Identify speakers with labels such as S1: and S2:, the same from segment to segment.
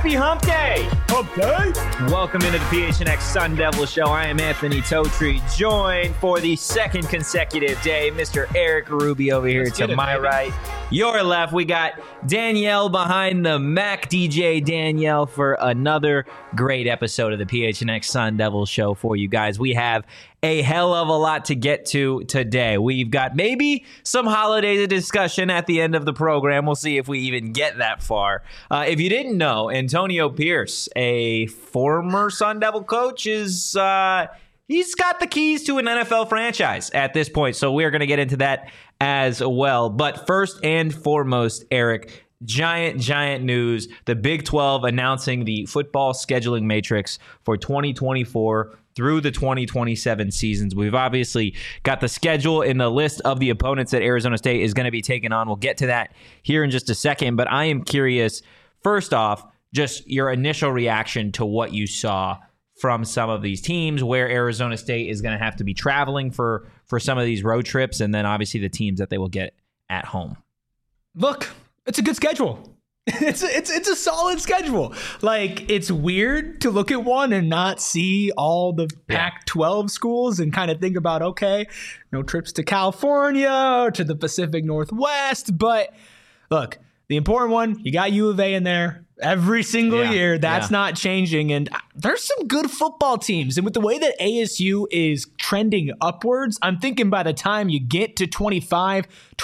S1: Happy Hump Day!
S2: Hump Day!
S1: Welcome into the PHNX Sun Devil Show. I am Anthony Totri, joined for the second consecutive day, Mr. Eric Ruby over here to my right. Your left, we got Danielle behind the Mac, DJ Danielle, for another great episode of the PHNX Sun Devil Show for you guys. We have a hell of a lot to get to today. We've got maybe some holiday discussion at the end of the program. We'll see if we even get that far. If you didn't know, Antonio Pierce, a former Sun Devil coach, is he's got the keys to an NFL franchise at this point. So we're going to get into that as well. But first and foremost, Eric, giant news. The Big 12 announcing the football scheduling matrix for 2024 through the 2027 seasons. We've obviously got the schedule in the list of the opponents that Arizona State is going to be taking on. We'll get to that here in just a second, but I am curious, first off, just your initial reaction to what you saw from some of these teams, where Arizona State is going to have to be traveling for some of these road trips, and then obviously the teams that they will get at home.
S2: Look, it's a good schedule. It's a solid schedule. Like, it's weird to look at one and not see all the Pac-12 schools and kind of think about, okay, no trips to California or to the Pacific Northwest. But look, the important one, you got U of A in there every single year. That's not changing. And there's some good football teams. And with the way that ASU is trending upwards, I'm thinking by the time you get to 25,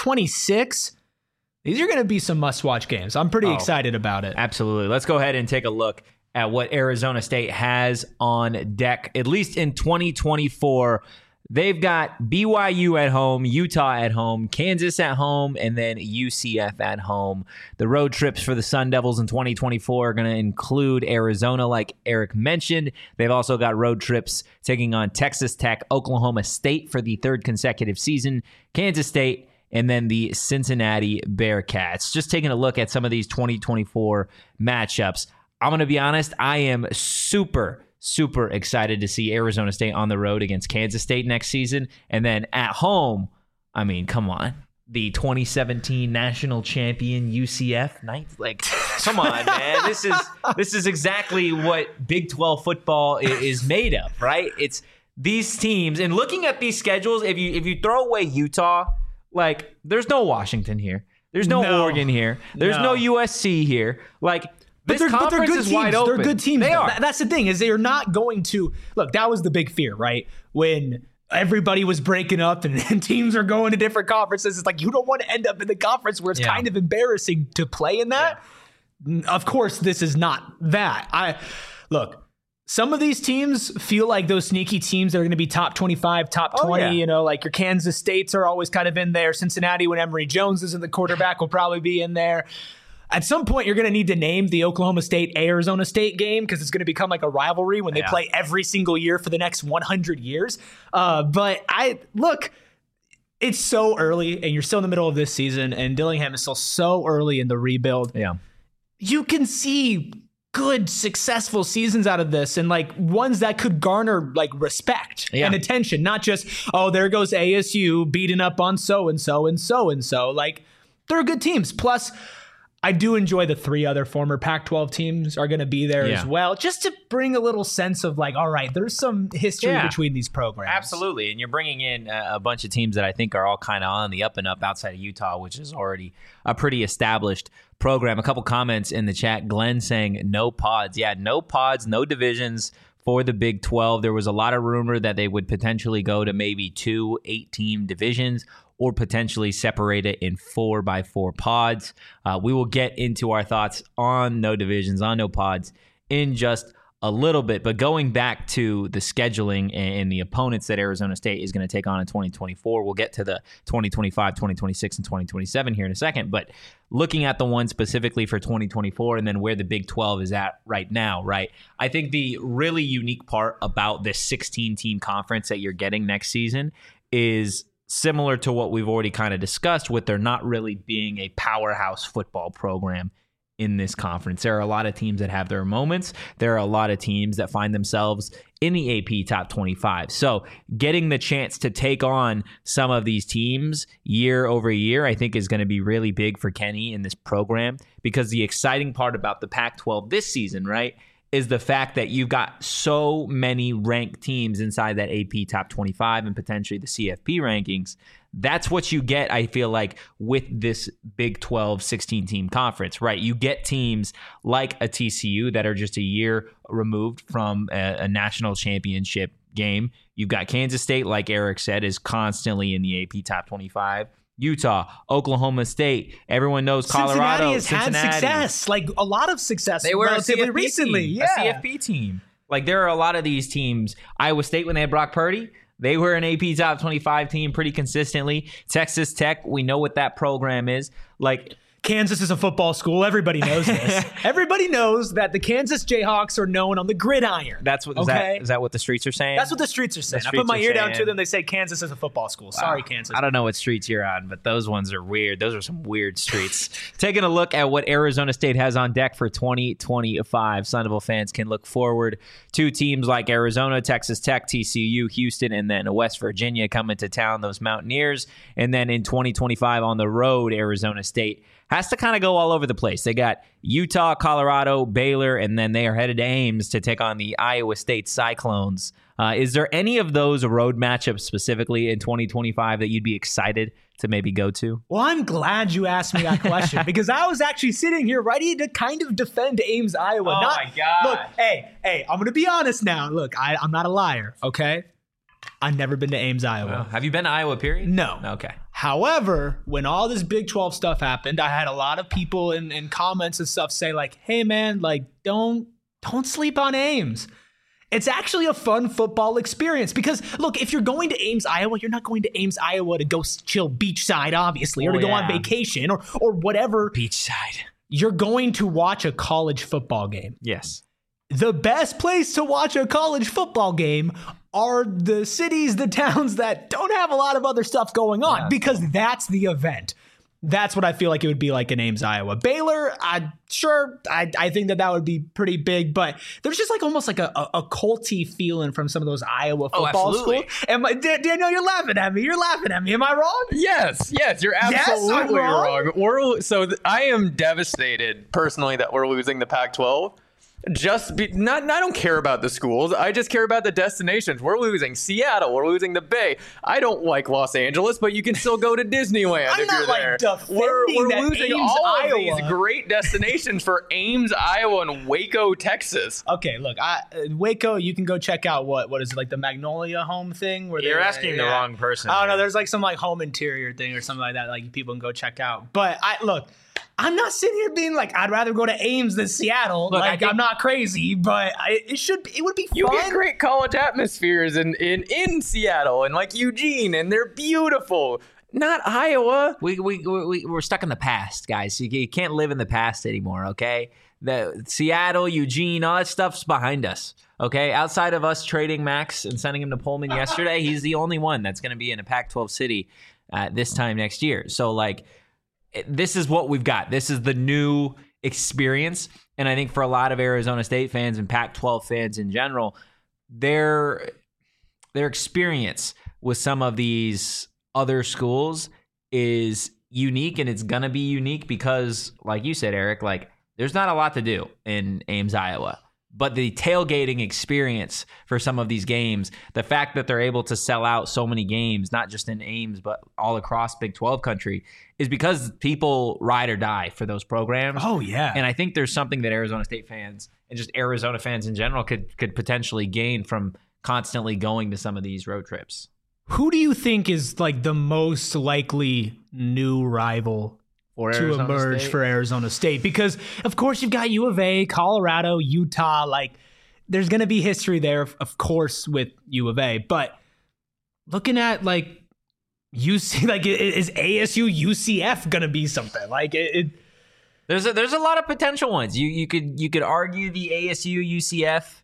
S2: 26, these are going to be some must-watch games. I'm pretty excited about it.
S1: Absolutely. Let's go ahead and take a look at what Arizona State has on deck, at least in 2024. They've got BYU at home, Utah at home, Kansas at home, and then UCF at home. The road trips for the Sun Devils in 2024 are going to include Arizona, like Eric mentioned. They've also got road trips taking on Texas Tech, Oklahoma State for the third consecutive season, Kansas State, and then the Cincinnati Bearcats. Just taking a look at some of these 2024 matchups. I'm going to be honest, I am super excited to see Arizona State on the road against Kansas State next season. And then at home, I mean, come on. The 2017 national champion UCF Knights. Like, come on, man. This is exactly what Big 12 football is made of, right? It's these teams. And looking at these schedules, if you throw away Utah, like, there's no Washington here. There's no Oregon here. There's no USC here. Like,
S2: But they're good teams. They're good teams.
S1: They are.
S2: That's the thing, is they are not going to look. That was the big fear, right? When everybody was breaking up and teams are going to different conferences. It's like, you don't want to end up in the conference where it's kind of embarrassing to play in that. Yeah. Of course, this is not that. Look. Some of these teams feel like those sneaky teams that are going to be top 25, top 20, you know, like your Kansas States are always kind of in there. Cincinnati, when Emory Jones isn't the quarterback, will probably be in there. At some point, you're going to need to name the Oklahoma State-Arizona State game because it's going to become like a rivalry when they play every single year for the next 100 years. But it's so early, and you're still in the middle of this season, and Dillingham is still so early in the rebuild. Yeah, you can see good, successful seasons out of this, and like ones that could garner like respect and attention, not just, oh, there goes ASU beating up on so-and-so and so-and-so. Like, they're good teams. Plus, I do enjoy the three other former Pac-12 teams are going to be there as well, just to bring a little sense of like, all right, there's some history between these programs.
S1: Absolutely. And you're bringing in a bunch of teams that I think are all kind of on the up and up outside of Utah, which is already a pretty established program. A couple comments in the chat. Glenn saying no pods. Yeah, no pods, no divisions for the Big 12. There was a lot of rumor that they would potentially go to maybe 2 8-team divisions, or potentially separate it in 4x4 pods. We will get into our thoughts on no divisions, on no pods in just a little bit. But going back to the scheduling and the opponents that Arizona State is going to take on in 2024, we'll get to the 2025, 2026, and 2027 here in a second. But looking at the one specifically for 2024 and then where the Big 12 is at right now, right? I think the really unique part about this 16-team conference that you're getting next season is similar to what we've already kind of discussed, with there not really being a powerhouse football program in this conference. There are a lot of teams that have their moments. There are a lot of teams that find themselves in the AP Top 25. So getting the chance to take on some of these teams year over year, I think is going to be really big for Kenny in this program, because the exciting part about the Pac-12 this season, right, is the fact that you've got so many ranked teams inside that AP Top 25 and potentially the CFP rankings. That's what you get, I feel like, with this Big 12 16-team conference, right? You get teams like a TCU that are just a year removed from a national championship game. You've got Kansas State, like Eric said, is constantly in the AP Top 25. Utah, Oklahoma State, everyone knows Colorado.
S2: Cincinnati has had success, like a lot of success.
S1: They were
S2: relatively recently, a
S1: CFP team. Like there are a lot of these teams. Iowa State, when they had Brock Purdy, they were an AP Top 25 team pretty consistently. Texas Tech, we know what that program is. Like
S2: Kansas is a football school. Everybody knows this. Everybody knows that the Kansas Jayhawks are known on the gridiron.
S1: That's what is that what the streets are saying?
S2: That's what the streets are saying. I put my ear down to them. They say Kansas is a football school. Sorry, Kansas.
S1: I don't know what streets you're on, but those ones are weird. Those are some weird streets. Taking a look at what Arizona State has on deck for 2025, Sun Devil fans can look forward to teams like Arizona, Texas Tech, TCU, Houston, and then West Virginia coming to town, those Mountaineers. And then in 2025 on the road, Arizona State has to kind of go all over the place. They got Utah, Colorado, Baylor, and then they are headed to Ames to take on the Iowa State Cyclones. Is there any of those road matchups specifically in 2025 that you'd be excited to maybe go to?
S2: Well, I'm glad you asked me that question because I was actually sitting here ready to kind of defend Ames, Iowa.
S1: Oh, my God.
S2: Look, hey, I'm going to be honest now. Look, I'm not a liar, okay? I've never been to Ames, Iowa.
S1: Well, have you been to Iowa, period?
S2: No.
S1: Okay.
S2: However, when all this Big 12 stuff happened, I had a lot of people in comments and stuff say like, hey, man, like, don't sleep on Ames. It's actually a fun football experience because, look, if you're going to Ames, Iowa, you're not going to Ames, Iowa to go chill beachside, obviously, or to go on vacation or whatever.
S1: Beachside.
S2: You're going to watch a college football game.
S1: Yes.
S2: The best place to watch a college football game are the cities, the towns that don't have a lot of other stuff going on because that's the event. That's what I feel like it would be like in Ames, Iowa. Baylor, I think that would be pretty big, but there's just like almost like a culty feeling from some of those Iowa football schools. Daniel, you're laughing at me. You're laughing at me. Am I wrong?
S3: Yes, you're absolutely wrong. I am devastated personally that we're losing the Pac-12. I don't care about the schools. I just care about the destinations. We're losing Seattle. We're losing the Bay. I don't like Los Angeles, but you can still go to Disneyland if you're there. We're losing
S2: Ames,
S3: all
S2: Iowa.
S3: of these great destinations for Ames, Iowa, and Waco, Texas.
S2: Okay, look, Waco, you can go check out what is it, like the Magnolia Home thing? Where
S1: you're asking the wrong person.
S2: I don't know. There's like some like home interior thing or something like that. Like people can go check out. But I'm not sitting here being like, I'd rather go to Ames than Seattle. Look, I'm not crazy, but it would be fun.
S3: You get great college atmospheres in Seattle and like Eugene, and they're beautiful. Not Iowa.
S1: We're stuck in the past, guys. You can't live in the past anymore, okay? The Seattle, Eugene, all that stuff's behind us, okay? Outside of us trading Max and sending him to Pullman yesterday, he's the only one that's going to be in a Pac-12 city this time next year. So, like, this is what we've got. This is the new experience. And I think for a lot of Arizona State fans and Pac-12 fans in general, their experience with some of these other schools is unique, and it's going to be unique because, like you said, Eric, like there's not a lot to do in Ames, Iowa. But the tailgating experience for some of these games, the fact that they're able to sell out so many games, not just in Ames, but all across Big 12 country, is because people ride or die for those programs.
S2: Oh, yeah.
S1: And I think there's something that Arizona State fans and just Arizona fans in general could potentially gain from constantly going to some of these road trips.
S2: Who do you think is like the most likely new rival to emerge for Arizona State? Because, of course, you've got U of A, Colorado, Utah. Like, there's going to be history there, of course, with U of A. But looking at, like, UC, like, is ASU UCF going to be something? Like,
S1: there's a lot of potential ones. You could argue the ASU UCF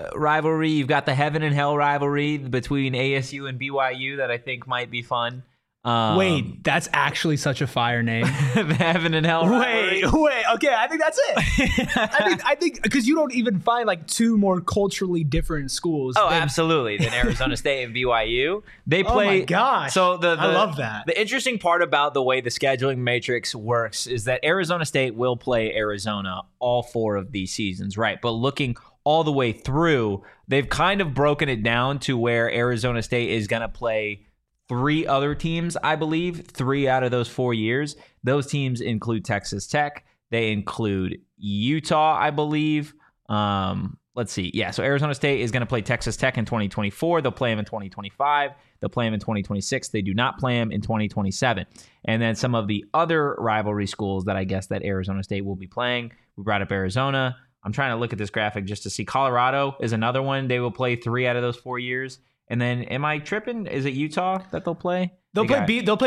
S1: rivalry. You've got the heaven and hell rivalry between ASU and BYU that I think might be fun.
S2: Wait, that's actually such a fire name.
S1: The Heaven and Hell rivalry.
S2: Wait. Okay, I think that's it. I think because you don't even find like two more culturally different schools.
S1: Oh, absolutely. Than Arizona State and BYU. They play.
S2: Oh my gosh!
S1: So
S2: I love that.
S1: The interesting part about the way the scheduling matrix works is that Arizona State will play Arizona all 4 of these seasons, right? But looking all the way through, they've kind of broken it down to where Arizona State is going to play 3 other teams, I believe, 3 out of those 4 years. Those teams include Texas Tech. They include Utah, I believe. Let's see. Yeah, so Arizona State is going to play Texas Tech in 2024. They'll play them in 2025. They'll play them in 2026. They do not play them in 2027. And then some of the other rivalry schools that I guess that Arizona State will be playing. We brought up Arizona. I'm trying to look at this graphic just to see. Colorado is another one. They will play 3 out of those 4 years. And then, am I tripping? Is it Utah that they'll play?
S2: They'll play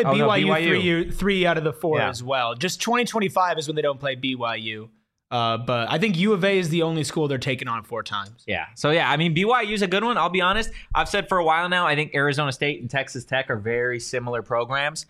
S2: BYU 3 out of the 4
S1: Yeah.
S2: as well. Just 2025 is when they don't play BYU. But I think U of A is the only school they're taking on 4 times.
S1: Yeah. So, yeah, I mean, BYU is a good one. I'll be honest. I've said for a while now, I think Arizona State and Texas Tech are very similar programs,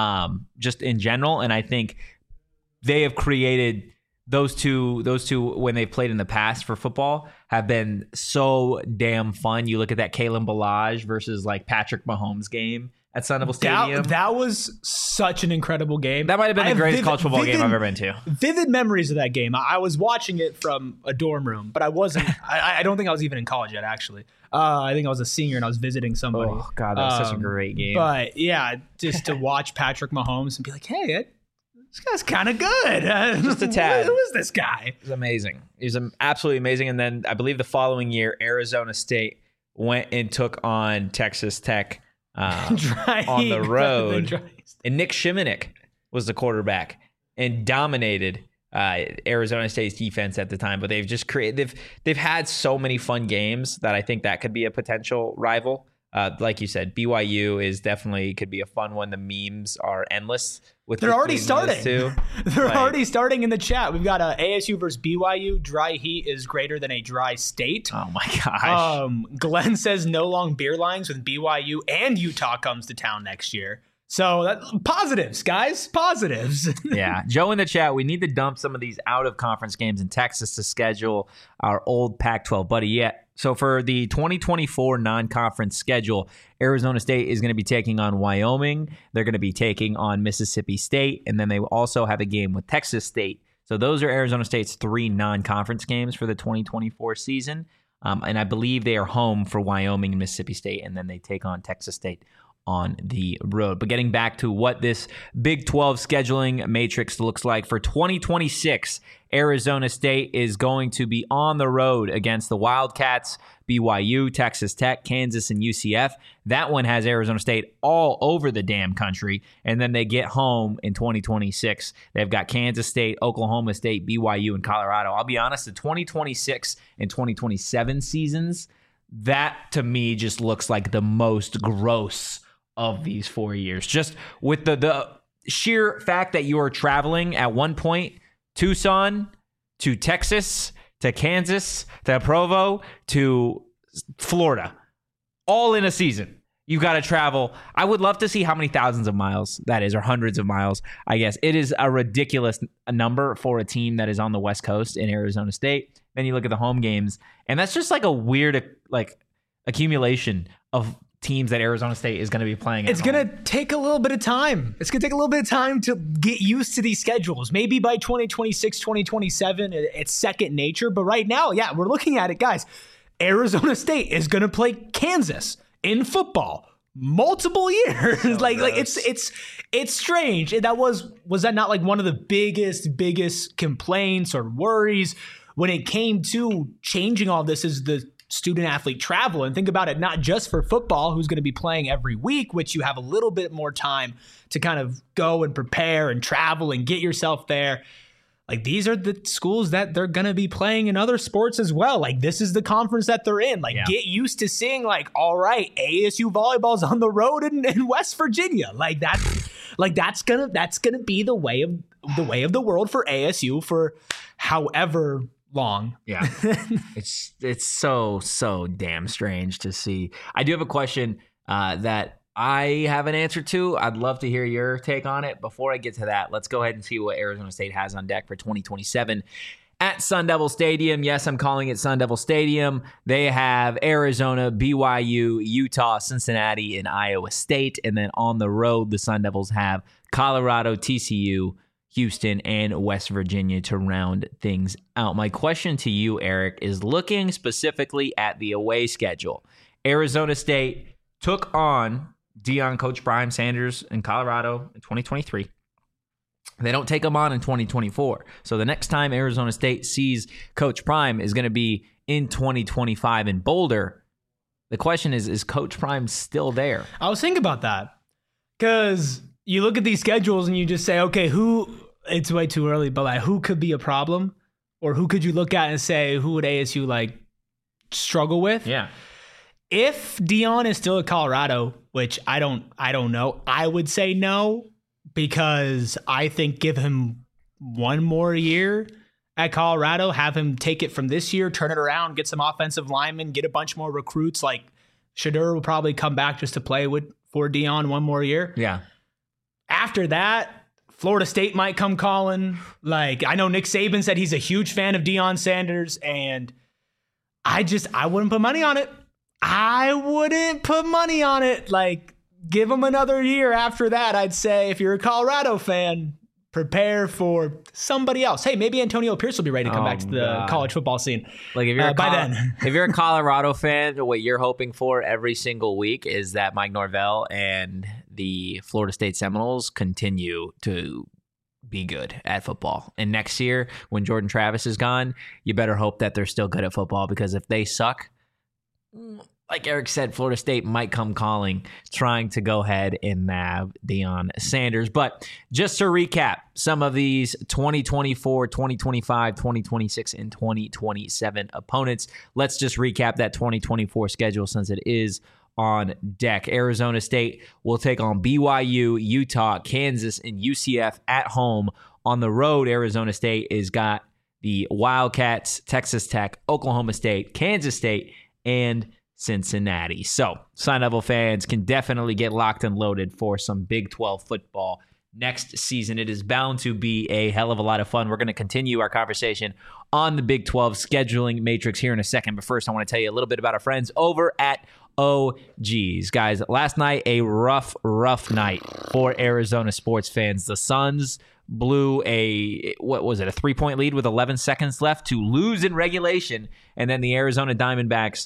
S1: just in general. And I think they have created those two when they've played in the past for football have been so damn fun. You look at that Kalen Ballage versus like Patrick Mahomes game at Sun Devil Stadium.
S2: That was such an incredible game.
S1: That might have been the greatest college football game I've ever been to.
S2: Vivid memories of that game. I was watching it from a dorm room, but I wasn't. I don't think I was even in college yet, actually. I think I was a senior and I was visiting somebody.
S1: Oh, God, that was such a great game.
S2: But, yeah, just to watch Patrick Mahomes and be like, hey, this guy's kind of good.
S1: Just a tad.
S2: Who is this guy?
S1: It was amazing. It was absolutely amazing. And then I believe the following year, Arizona State went and took on Texas Tech on the road. And Nick Shimonik was the quarterback and dominated Arizona State's defense at the time. But they've just created. They've had so many fun games that I think that could be a potential rival. Like you said, BYU is definitely could be a fun one. The memes are endless.
S2: They're already starting. They're
S1: Like,
S2: already starting in the chat. We've got ASU versus BYU. Dry heat is greater than a dry state.
S1: Oh my gosh.
S2: Glenn says no long beer lines when BYU and Utah comes to town next year. So positives, guys, positives.
S1: Yeah. Joe in the chat, we need to dump some of these out of conference games in Texas to schedule our old Pac-12 buddy. Yeah. So for the 2024 non-conference schedule, Arizona State is going to be taking on Wyoming. They're going to be taking on Mississippi State. And then they will also have a game with Texas State. So those are Arizona State's 3 non-conference games for the 2024 season. And I believe they are home for Wyoming and Mississippi State. And then they take on Texas State on the road. But getting back to what this Big 12 scheduling matrix looks like for 2026, Arizona State is going to be on the road against the Wildcats, BYU, Texas Tech, Kansas, and UCF. That one has Arizona State all over the damn country. And then they get home in 2026. They've got Kansas State, Oklahoma State, BYU, and Colorado. I'll be honest, the 2026 and 2027 seasons, that to me just looks like the most gross of these 4 years. Just with the sheer fact that you are traveling at one point, Tucson to Texas to Kansas to Provo to Florida, all in a season. You've got to travel. I would love to see how many thousands of miles that is, or hundreds of miles, I guess. It is a ridiculous number for a team that is on the West Coast in Arizona State. Then you look at the home games, and that's just like a weird accumulation of teams that Arizona State is going to be playing.
S2: It's going to take a little bit of time. It's going to take a little bit of time to get used to these schedules. Maybe by 2026, 2027, it's second nature. But right now, yeah, we're looking at it, guys. Arizona State is going to play Kansas in football multiple years. So it's strange. That was that not like one of the biggest complaints or worries when it came to changing all this is the student athlete travel? And think about it, not just for football, who's going to be playing every week, which you have a little bit more time to kind of go and prepare and travel and get yourself there. Like, these are the schools that they're going to be playing in other sports as well. Like, this is the conference that they're in. Like, Get used to seeing, like, all right, ASU volleyball's on the road in West Virginia. That's gonna be the way of the world for ASU for however long.
S1: Yeah. It's so damn strange to see. I do have a question that I have an answer to. I'd love to hear your take on it. Before I get to that, let's go ahead and see what Arizona State has on deck for 2027 at Sun Devil Stadium. Yes, I'm calling it Sun Devil Stadium. They have Arizona, BYU, Utah, Cincinnati, and Iowa State. And then on the road, the Sun Devils have Colorado, TCU, Houston, and West Virginia to round things out. My question to you, Eric, is looking specifically at the away schedule. Arizona State took on Deion Coach Prime Sanders in Colorado in 2023. They don't take them on in 2024. So the next time Arizona State sees Coach Prime is going to be in 2025 in Boulder. The question is Coach Prime still there?
S2: I was thinking about that because you look at these schedules and you just say, okay, it's way too early, but like who could be a problem? Or who could you look at and say, who would ASU like struggle with?
S1: Yeah.
S2: If Deion is still at Colorado, which I don't know, I would say no, because I think give him one more year at Colorado, have him take it from this year, turn it around, get some offensive linemen, get a bunch more recruits. Like Shedeur will probably come back just to play for Deion one more year.
S1: Yeah.
S2: After that, Florida State might come calling. Like I know Nick Saban said he's a huge fan of Deion Sanders, and I wouldn't put money on it. I wouldn't put money on it. Like, give him another year after that. I'd say if you're a Colorado fan, prepare for somebody else. Hey, maybe Antonio Pierce will be ready to come back to the college football scene.
S1: Like if you're
S2: then.
S1: If you're a Colorado fan, what you're hoping for every single week is that Mike Norvell and the Florida State Seminoles continue to be good at football. And next year, when Jordan Travis is gone, you better hope that they're still good at football, because if they suck, like Eric said, Florida State might come calling, trying to go ahead and nab Deion Sanders. But just to recap some of these 2024, 2025, 2026, and 2027 opponents, let's just recap that 2024 schedule since it is on deck. Arizona State will take on BYU, Utah, Kansas, and UCF at home. On the road, Arizona State has got the Wildcats, Texas Tech, Oklahoma State, Kansas State, and Cincinnati. So Sun Devil fans can definitely get locked and loaded for some Big 12 football next season. It is bound to be a hell of a lot of fun. We're going to continue our conversation on the Big 12 scheduling matrix here in a second. But first, I want to tell you a little bit about our friends over at OGs. Guys, last night, a rough night for Arizona sports fans. The Suns blew a 3-point lead with 11 seconds left to lose in regulation. And then the Arizona Diamondbacks,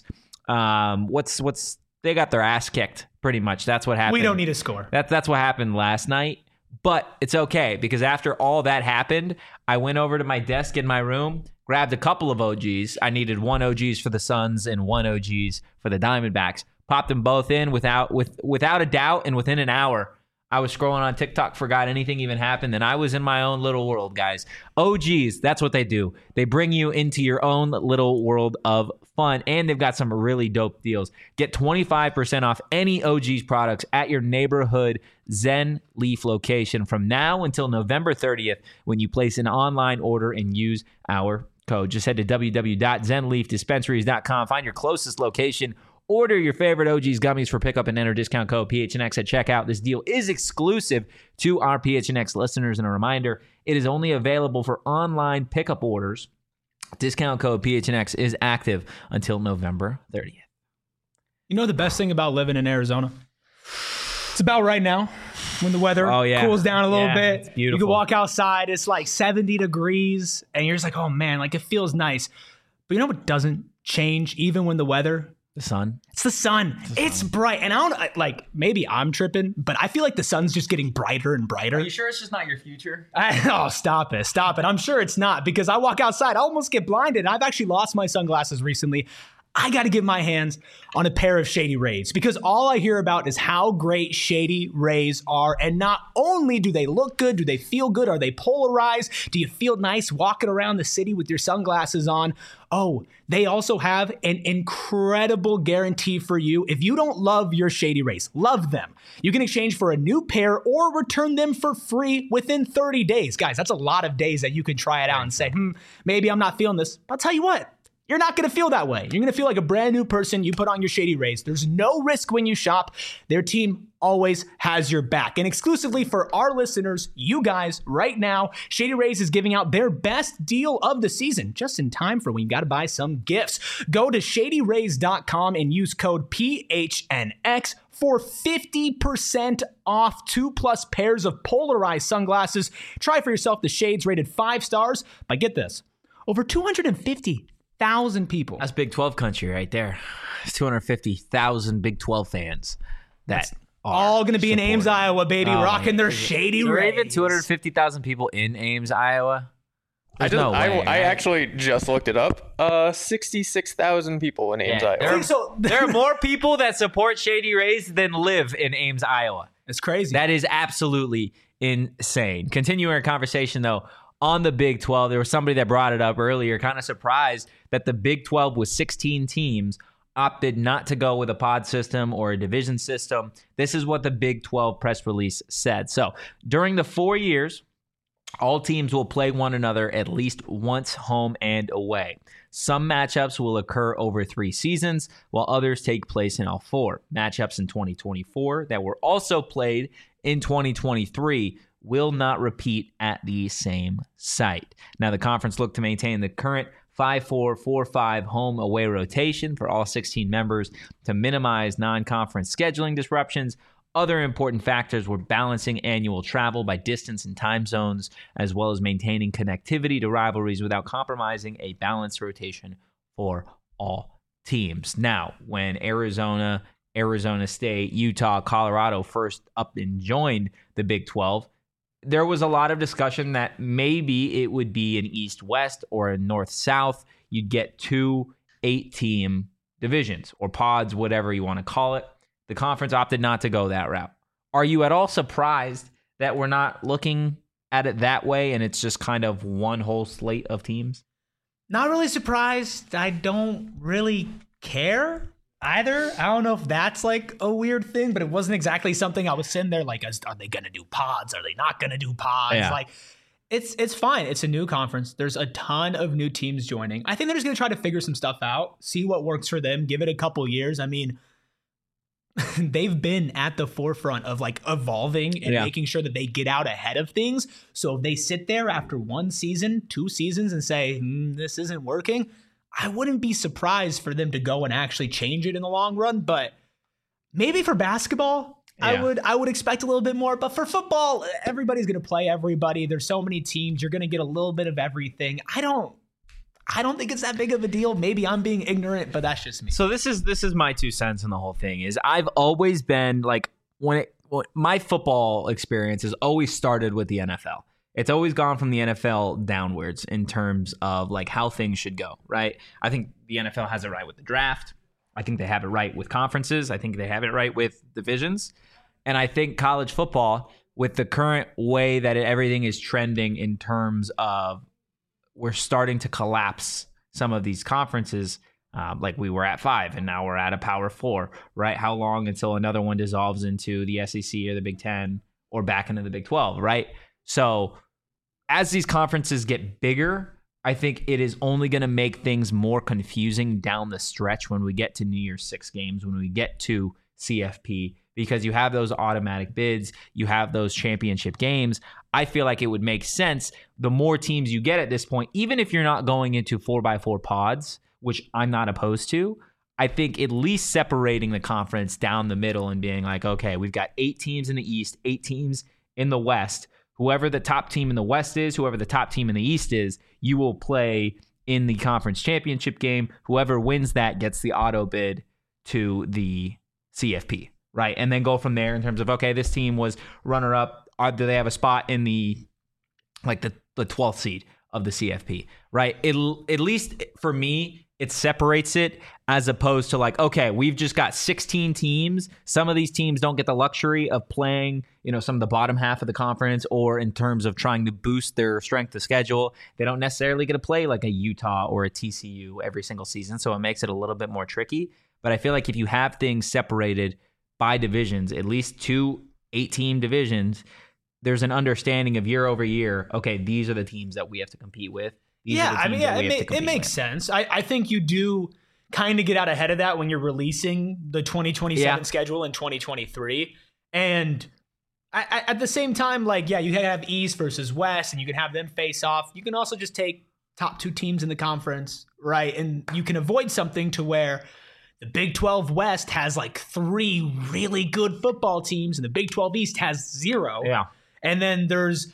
S1: they got their ass kicked pretty much. That's what happened.
S2: We don't need a score.
S1: That's what happened last night. But it's okay, because after all that happened, I went over to my desk in my room, grabbed a couple of OGs. I needed one OGs for the Suns and one OGs for the Diamondbacks. Popped them both in without a doubt, and within an hour, I was scrolling on TikTok, forgot anything even happened, and I was in my own little world, guys. OGs, that's what they do. They bring you into your own little world of fun, and they've got some really dope deals. Get 25% off any OGs products at your neighborhood Zen Leaf location from now until November 30th when you place an online order and use our code. Just head to www.zenleafdispensaries.com, find your closest location, order your favorite OGs gummies for pickup, and enter discount code PHNX at checkout. This deal is exclusive to our PHNX listeners. And a reminder, it is only available for online pickup orders. Discount code PHNX is active until November 30th.
S2: You know the best thing about living in Arizona? It's about right now when the weather cools down a little bit.
S1: It's beautiful.
S2: You can walk outside. It's like 70 degrees, and you're just like, oh, man, like it feels nice. But you know what doesn't change even when the weather?
S1: The sun.
S2: It's the sun. It's bright. And I don't like, maybe I'm tripping, but I feel like the sun's just getting brighter and brighter.
S1: Are you sure it's just not your future?
S2: Stop it. I'm sure it's not, because I walk outside, I almost get blinded. I've actually lost my sunglasses recently. I got to get my hands on a pair of Shady Rays, because all I hear about is how great Shady Rays are. And not only do they look good, do they feel good? Are they polarized? Do you feel nice walking around the city with your sunglasses on? Oh, they also have an incredible guarantee for you. If you don't love your Shady Rays, love them, you can exchange for a new pair or return them for free within 30 days. Guys, that's a lot of days that you can try it out and say, maybe I'm not feeling this. But I'll tell you what. You're not going to feel that way. You're going to feel like a brand new person. You put on your Shady Rays. There's no risk when you shop. Their team always has your back. And exclusively for our listeners, you guys, right now, Shady Rays is giving out their best deal of the season, just in time for when you got to buy some gifts. Go to shadyrays.com and use code PHNX for 50% off 2+ pairs of polarized sunglasses. Try for yourself the shades rated 5 stars by, get this, over 250,000 people.
S1: That's Big 12 country right there. It's 250,000 Big 12 fans that are
S2: all going to be in Ames, Iowa, baby, rocking their Shady Rays.
S1: Even 250,000 people in Ames, Iowa.
S3: I actually just looked it up. 66,000 people in Ames, Iowa.
S1: There are more people that support Shady Rays than live in Ames, Iowa.
S2: It's crazy.
S1: That is absolutely insane. Continuing our conversation, though, on the Big 12, there was somebody that brought it up earlier, kind of surprised that the Big 12 with 16 teams opted not to go with a pod system or a division system. This is what the Big 12 press release said. So during the 4 years, all teams will play one another at least once home and away. Some matchups will occur over 3 seasons, while others take place in all 4. Matchups in 2024 that were also played in 2023 will not repeat at the same site. Now, the conference looked to maintain the current 5-4-4-5 home-away rotation for all 16 members to minimize non-conference scheduling disruptions. Other important factors were balancing annual travel by distance and time zones, as well as maintaining connectivity to rivalries without compromising a balanced rotation for all teams. Now, when Arizona State, Utah, Colorado first up and joined the Big 12, there was a lot of discussion that maybe it would be an East-West or a North-South. You'd get 2 8-team divisions or pods, whatever you want to call it. The conference opted not to go that route. Are you at all surprised that we're not looking at it that way and it's just kind of one whole slate of teams?
S2: Not really surprised. I don't really care either. I don't know if that's like a weird thing, but it wasn't exactly something I was sitting there like, are they going to do pods? Are they not going to do pods?
S1: Yeah.
S2: Like, it's fine. It's a new conference. There's a ton of new teams joining. I think they're just going to try to figure some stuff out, see what works for them, give it a couple years. I mean, they've been at the forefront of like evolving and making sure that they get out ahead of things. So if they sit there after 1 season, 2 seasons and say, this isn't working, I wouldn't be surprised for them to go and actually change it in the long run. But maybe for basketball, I would expect a little bit more. But for football, everybody's going to play everybody. There's so many teams. You're going to get a little bit of everything. I don't think it's that big of a deal. Maybe I'm being ignorant, but that's just me.
S1: So this is my 2 cents in the whole thing. Is I've always been like, my football experience has always started with the NFL. It's always gone from the NFL downwards in terms of like how things should go, right? I think the NFL has it right with the draft. I think they have it right with conferences. I think they have it right with divisions. And I think college football, with the current way that everything is trending in terms of we're starting to collapse some of these conferences, like we were at 5 and now we're at a Power 4, right? How long until another one dissolves into the SEC or the Big 10 or back into the Big 12, right? So as these conferences get bigger, I think it is only going to make things more confusing down the stretch when we get to New Year's 6 games, when we get to CFP, because you have those automatic bids, you have those championship games. I feel like it would make sense the more teams you get at this point, even if you're not going into 4x4 pods, which I'm not opposed to, I think at least separating the conference down the middle and being like, okay, we've got 8 teams in the East, 8 teams in the West. Whoever the top team in the West is, whoever the top team in the East is, you will play in the conference championship game. Whoever wins that gets the auto bid to the CFP, right? And then go from there in terms of, okay, this team was runner-up. Do they have a spot in the 12th seed of the CFP, right? At least for me, it separates it as opposed to like, okay, we've just got 16 teams. Some of these teams don't get the luxury of playing, some of the bottom half of the conference, or in terms of trying to boost their strength of schedule, they don't necessarily get to play like a Utah or a TCU every single season. So it makes it a little bit more tricky. But I feel like if you have things separated by divisions, at least 2 8-team divisions, there's an understanding of year over year, okay, these are the teams that we have to compete with.
S2: It makes sense. I think you do kind of get out ahead of that when you're releasing the 2027 schedule in 2023. And at the same time, like, you have East versus West, and you can have them face off. You can also just take top 2 teams in the conference, right? And you can avoid something to where the Big 12 West has like 3 really good football teams, and the Big 12 East has 0.
S1: Yeah.
S2: And then there's,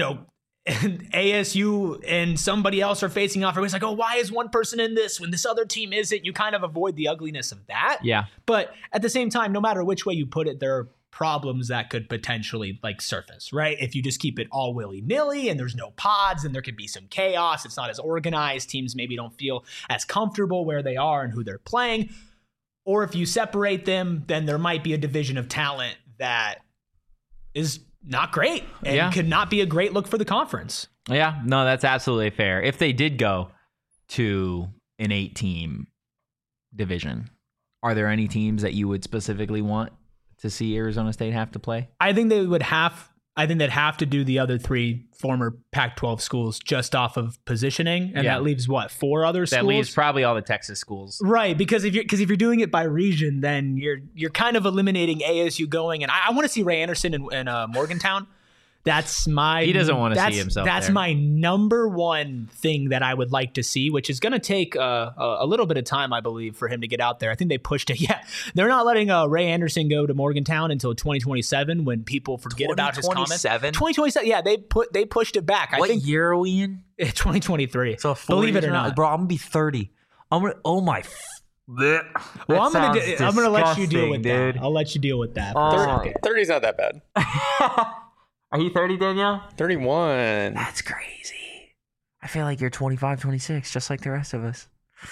S2: ASU and somebody else are facing off. Everybody's like, oh, why is one person in this when this other team isn't? You kind of avoid the ugliness of that.
S1: Yeah.
S2: But at the same time, no matter which way you put it, there are problems that could potentially like surface, right? If you just keep it all willy-nilly and there's no pods, and there could be some chaos. It's not as organized. Teams maybe don't feel as comfortable where they are and who they're playing. Or if you separate them, then there might be a division of talent that is not great and could not be a great look for the conference.
S1: Yeah, no, that's absolutely fair. If they did go to an 8-team division, are there any teams that you would specifically want to see Arizona State have to play?
S2: I think they'd have to do the other 3 former Pac-12 schools just off of positioning, and that leaves 4 other schools.
S1: That leaves probably all the Texas schools,
S2: right? Because if you're doing it by region, then you're kind of eliminating ASU going. And I want to see Ray Anderson in Morgantown. He doesn't want to see himself. That's
S1: there.
S2: My number one thing that I would like to see, which is going to take a little bit of time, I believe, for him to get out there. I think they pushed it. Yeah, they're not letting Ray Anderson go to Morgantown until 2027, when people forget about his comments. 2027. Yeah, they pushed it back.
S1: What year are we in?
S2: 2023.
S1: So
S2: believe it or not,
S1: bro, I'm gonna be 30. Well, I'm
S2: gonna let you deal with that. I'll let you deal with that.
S3: 30's not that bad.
S1: Are you 30, Danielle?
S3: 31.
S1: That's crazy. I feel like you're 25, 26, just like the rest of us.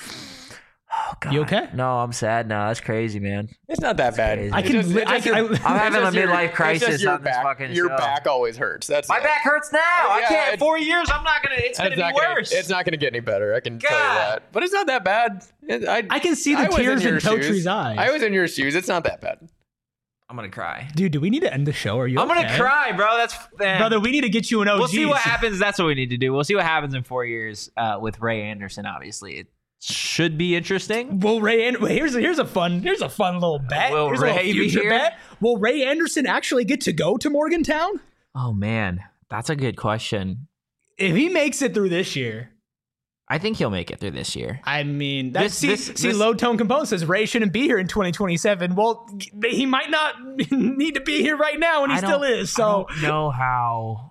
S1: Oh, God.
S2: You okay?
S1: No, I'm sad now. That's crazy, man.
S3: It's not that bad.
S1: Crazy.
S3: I'm
S1: having a midlife crisis on this fucking show.
S3: Your back always hurts.
S1: My back hurts now. I can't. 4 years, it's going to be worse.
S3: It's not going to get any better. I can tell you that. But it's not that bad.
S2: I can see the tears in Totry's eyes.
S3: I was in your shoes. It's not that bad.
S1: I'm gonna cry,
S2: dude. Do we need to end the show? Are you?
S1: I'm
S2: okay?
S1: gonna cry, bro.
S2: Brother. We need to get you an OG.
S1: We'll see what happens. That's what we need to do. We'll see what happens in 4 years with Ray Anderson. Obviously, it should be interesting.
S2: Well, here's a fun little bet.
S1: Will
S2: here's
S1: Ray
S2: a
S1: be here?
S2: Bet. Will Ray Anderson actually get to go to Morgantown?
S1: Oh man, that's a good question.
S2: If he makes it through this year,
S1: I think he'll make it through this year.
S2: I mean, Low Tone Compone says Ray shouldn't be here in 2027. Well, he might not need to be here right now, and he still is. So
S1: I don't know how.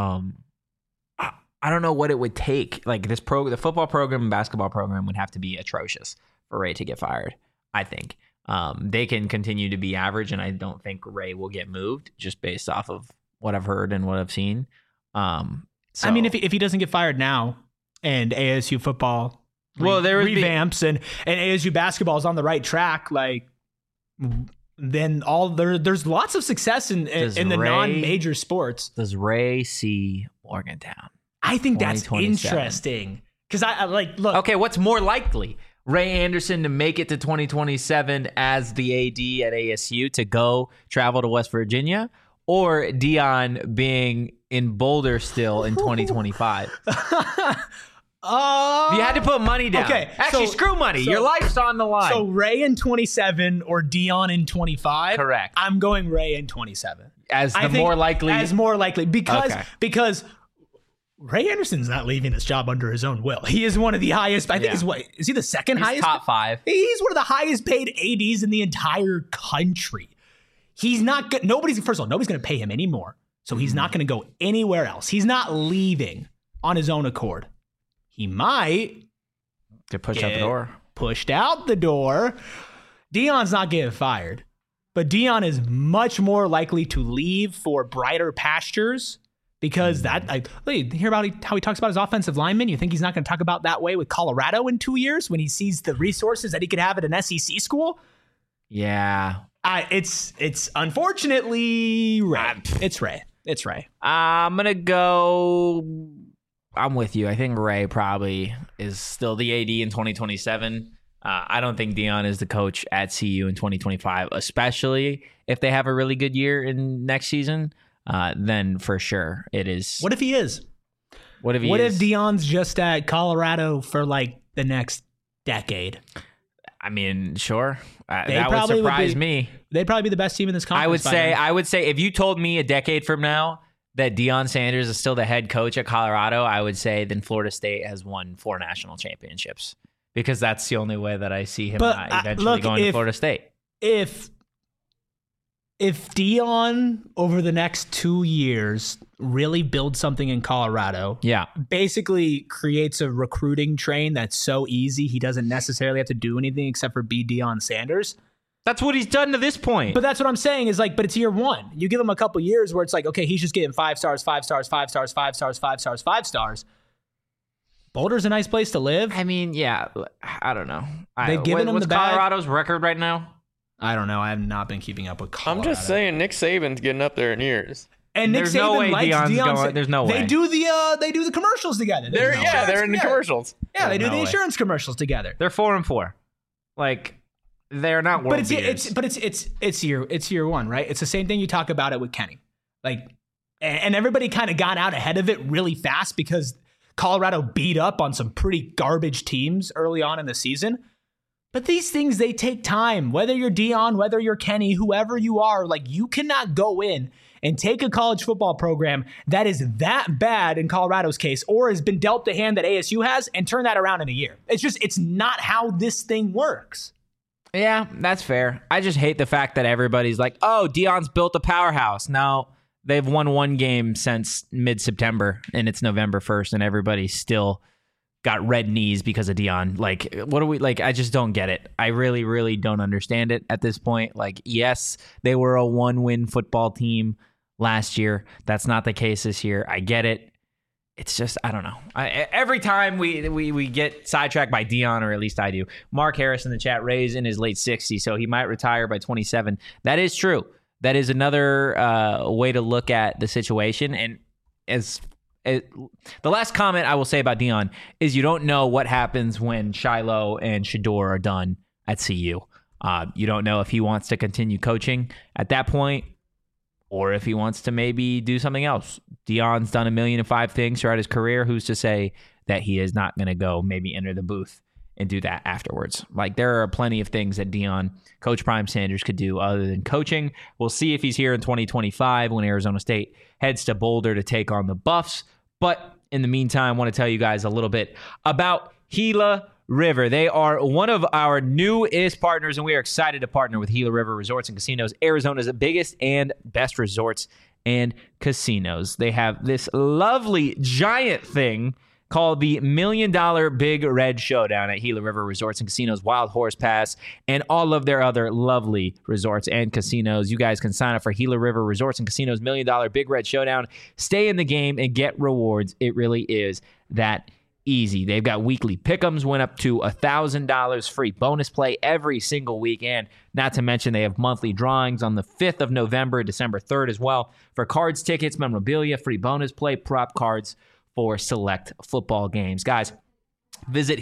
S1: I don't know what it would take. Like the football program and basketball program would have to be atrocious for Ray to get fired. I think they can continue to be average, and I don't think Ray will get moved just based off of what I've heard and what I've seen. I
S2: mean, if he doesn't get fired now, and ASU football revamps and ASU basketball is on the right track, like then there's lots of success in the non-major sports.
S1: Does Ray see Morgantown?
S2: I think that's interesting because I look.
S1: Okay, what's more likely? Ray Anderson to make it to 2027 as the AD at ASU to go travel to West Virginia, or Deion being in Boulder still in 2025? If you had to put money down.
S2: Okay.
S1: Actually, screw money. Your life's on the line.
S2: So Ray in 27 or Deion in 25?
S1: Correct.
S2: I'm going Ray in 27.
S1: As more likely?
S2: Because Ray Anderson's not leaving his job under his own will. He is one of the highest. I think is he the second highest?
S1: Top 5.
S2: He's one of the highest paid ADs in the entire country. He's not good. Nobody's going to pay him anymore. So he's not going to go anywhere else. He's not leaving on his own accord. He might
S1: get pushed out the door. Deion's
S2: not getting fired, but Deion is much more likely to leave for brighter pastures because you hear about how he talks about his offensive linemen. You think he's not going to talk about that way with Colorado in 2 years when he sees the resources that he could have at an SEC school?
S1: Yeah.
S2: It's unfortunately Ray. It's Ray.
S1: I'm going to go... I'm with you. I think Ray probably is still the AD in 2027. I don't think Deion is the coach at CU in 2025, especially if they have a really good year in next season. Then for sure it is.
S2: What if he is?
S1: What if
S2: Deion's just at Colorado for like the next decade?
S1: I mean, sure. That would surprise me.
S2: They'd probably be the best team in this conference.
S1: I would say if you told me a decade from now that Deion Sanders is still the head coach at Colorado, I would say then Florida State has won 4 national championships, because that's the only way that I see him eventually going to Florida State.
S2: If Deion over the next 2 years really builds something in Colorado, basically creates a recruiting train that's so easy he doesn't necessarily have to do anything except for be Deion Sanders.
S1: That's what he's done to this point.
S2: But that's what I'm saying is like, but it's year 1. You give him a couple years where it's like, okay, he's just getting 5 stars, 5 stars, 5 stars, 5 stars, 5 stars, 5 stars. Boulder's a nice place to live.
S1: I mean, yeah, I don't know.
S2: They've given him the bag.
S1: What's Colorado's record right now?
S2: I don't know. I have not been keeping up with Colorado.
S3: I'm just saying Nick Saban's getting up there in years.
S2: And Nick Saban likes Deion.
S1: There's no way.
S2: They do the commercials together.
S3: They're in the commercials.
S2: Yeah, they do the insurance commercials together.
S1: They're 4-4. Like, they're not world beaters.
S2: But it's year 1, right? It's the same thing you talk about it with Kenny. Like, and everybody kind of got out ahead of it really fast because Colorado beat up on some pretty garbage teams early on in the season. But these things, they take time. Whether you're Deion, whether you're Kenny, whoever you are, like, you cannot go in and take a college football program that is that bad in Colorado's case, or has been dealt the hand that ASU has, and turn that around in a year. It's not how this thing works.
S1: Yeah, that's fair. I just hate the fact that everybody's like, oh, Deion's built a powerhouse. No, they've won 1 game since mid-September, and it's November 1st, and everybody's still got red knees because of Deion. Like, what are we, like, I just don't get it. I really, really don't understand it at this point. Like, yes, they were a 1-win football team last year. That's not the case this year. I get it. It's just, I don't know. Every time we get sidetracked by Deion, or at least I do. Mark Harris in the chat, Ray's in his late 60s, so he might retire by 27. That is true. That is another way to look at the situation. And the last comment I will say about Deion is you don't know what happens when Shiloh and Shedeur are done at CU. You don't know if he wants to continue coaching at that point, or if he wants to maybe do something else. Deion's done 1,000,005 things throughout his career. Who's to say that he is not going to go maybe enter the booth and do that afterwards? Like, there are plenty of things that Coach Prime Sanders could do other than coaching. We'll see if he's here in 2025 when Arizona State heads to Boulder to take on the Buffs. But in the meantime, I want to tell you guys a little bit about Gila River. They are one of our newest partners, and we are excited to partner with Gila River Resorts and Casinos, Arizona's biggest and best resorts and casinos. They have this lovely giant thing called the $1 Million Big Red Showdown at Gila River Resorts and Casinos, Wild Horse Pass, and all of their other lovely resorts and casinos. You guys can sign up for Gila River Resorts and Casinos $1 Million Big Red Showdown. Stay in the game and get rewards. It really is that easy. They've got weekly pick'ems, went up to $1,000 free bonus play every single week. And not to mention, they have monthly drawings on the 5th of November, December 3rd as well, for cards, tickets, memorabilia, free bonus play, prop cards for select football games. Guys, visit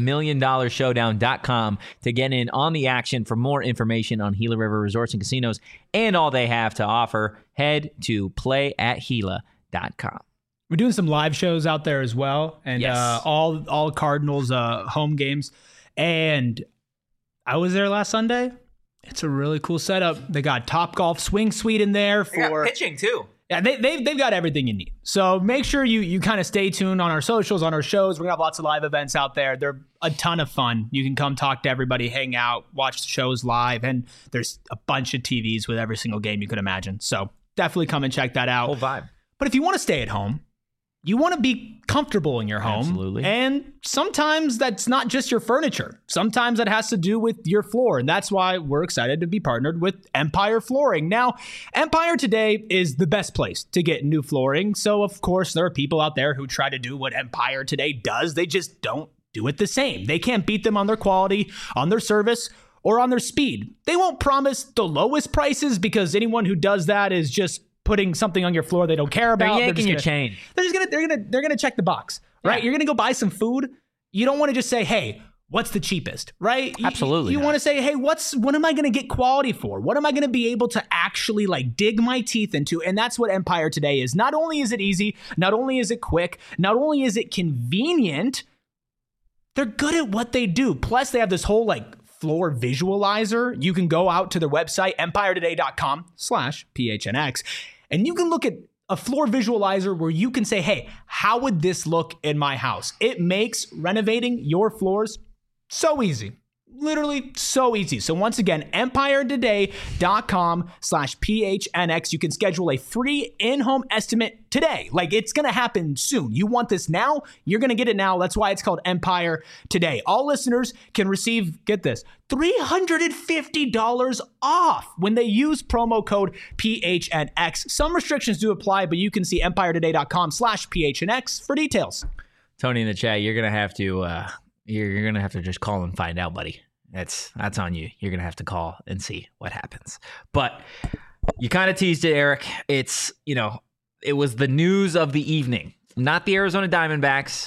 S1: GilaMillionDollarShowdown.com to get in on the action. For more information on Gila River Resorts and Casinos and all they have to offer, head to playatgila.com.
S2: We're doing some live shows out there as well, and
S1: yes.
S2: All Cardinals home games. And I was there last Sunday. It's a really cool setup. They got Topgolf Swing Suite in there for
S1: they got pitching too.
S2: Yeah, they've got everything you need. So make sure you kind of stay tuned on our socials, on our shows. We're gonna have lots of live events out there. They're a ton of fun. You can come talk to everybody, hang out, watch the shows live, and there's a bunch of TVs with every single game you could imagine. So definitely come and check that out.
S1: Whole vibe.
S2: But if you want to stay at home, you want to be comfortable in your home.
S1: Absolutely.
S2: And sometimes that's not just your furniture. Sometimes that has to do with your floor. And that's why we're excited to be partnered with Empire Flooring. Now, Empire today is the best place to get new flooring. So, of course, there are people out there who try to do what Empire today does. They just don't do it the same. They can't beat them on their quality, on their service, or on their speed. They won't promise the lowest prices, because anyone who does that is just putting something on your floor they don't care about.
S1: They're yanking your chain.
S2: They're gonna check the box, right? Yeah. You're gonna go buy some food. You don't want to just say, hey, what's the cheapest, right?
S1: Absolutely.
S2: You want to say, hey, what am I going to get quality for? What am I going to be able to actually like dig my teeth into? And that's what Empire Today is. Not only is it easy, not only is it quick, not only is it convenient, they're good at what they do. Plus, they have this whole like floor visualizer. You can go out to their website, empiretoday.com/PHNX, and you can look at a floor visualizer where you can say, hey, how would this look in my house? It makes renovating your floors so easy. Literally so easy. So once again, empiretoday.com/PHNX. You can schedule a free in-home estimate today. Like, it's going to happen soon. You want this now? You're going to get it now. That's why it's called Empire Today. All listeners can receive, get this, $350 off when they use promo code PHNX. Some restrictions do apply, but you can see empiretoday.com/PHNX for details.
S1: Tony in the chat, you're going to have to... You're gonna have to just call and find out, buddy. That's on you. You're gonna have to call and see what happens. But you kind of teased it, Eric. It's, it was the news of the evening. Not the Arizona Diamondbacks,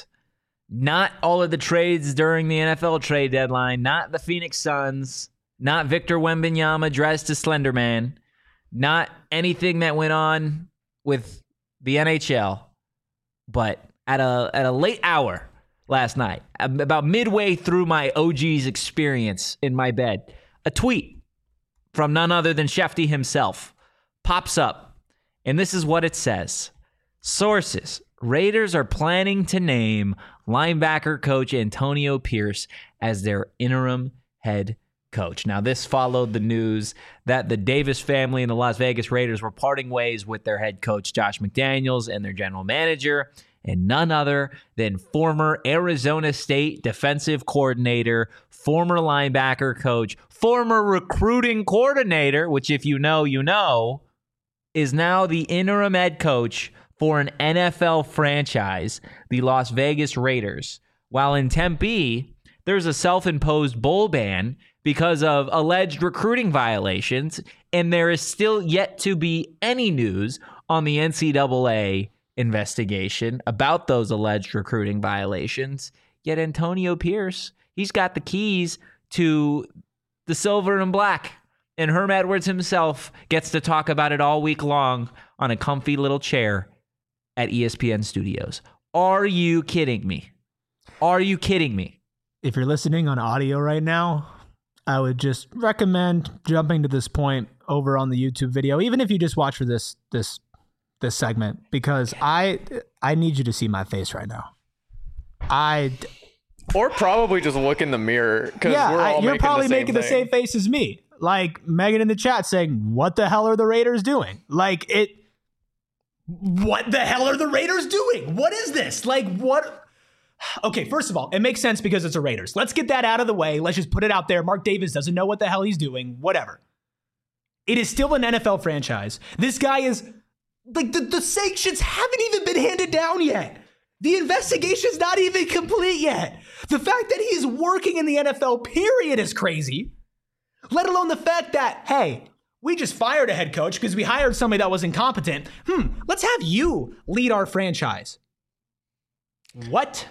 S1: not all of the trades during the NFL trade deadline, not the Phoenix Suns, not Victor Wembanyama dressed as Slender Man, not anything that went on with the NHL, but at a late hour last night, about midway through my OG's experience in my bed, a tweet from none other than Shefty himself pops up, and this is what it says. Sources: Raiders are planning to name linebacker coach Antonio Pierce as their interim head coach. Now, this followed the news that the Davis family and the Las Vegas Raiders were parting ways with their head coach Josh McDaniels and their general manager, and none other than former Arizona State defensive coordinator, former linebacker coach, former recruiting coordinator, which if you know, is now the interim head coach for an NFL franchise, the Las Vegas Raiders. While in Tempe, there's a self-imposed bowl ban because of alleged recruiting violations, and there is still yet to be any news on the NCAA investigation about those alleged recruiting violations. Yet Antonio Pierce, he's got the keys to the silver and black, and Herm Edwards himself gets to talk about it all week long on a comfy little chair at ESPN Studios. Are you kidding me? Are you kidding me?
S2: If you're listening on audio right now, I would just recommend jumping to this point over on the YouTube video, even if you just watch for this segment, because I need you to see my face right now.
S3: Or probably just look in the mirror, because
S2: you're probably making the same face as me. Like Megan in the chat saying, "What the hell are the Raiders doing?" What the hell are the Raiders doing? What is this? Like, what? Okay, first of all, it makes sense because it's a Raiders. Let's get that out of the way. Let's just put it out there. Mark Davis doesn't know what the hell he's doing. Whatever. It is still an NFL franchise. This guy is... Like, the sanctions haven't even been handed down yet. The investigation's not even complete yet. The fact that he's working in the NFL, period, is crazy. Let alone the fact that, hey, we just fired a head coach because we hired somebody that was incompetent. Let's have you lead our franchise. What?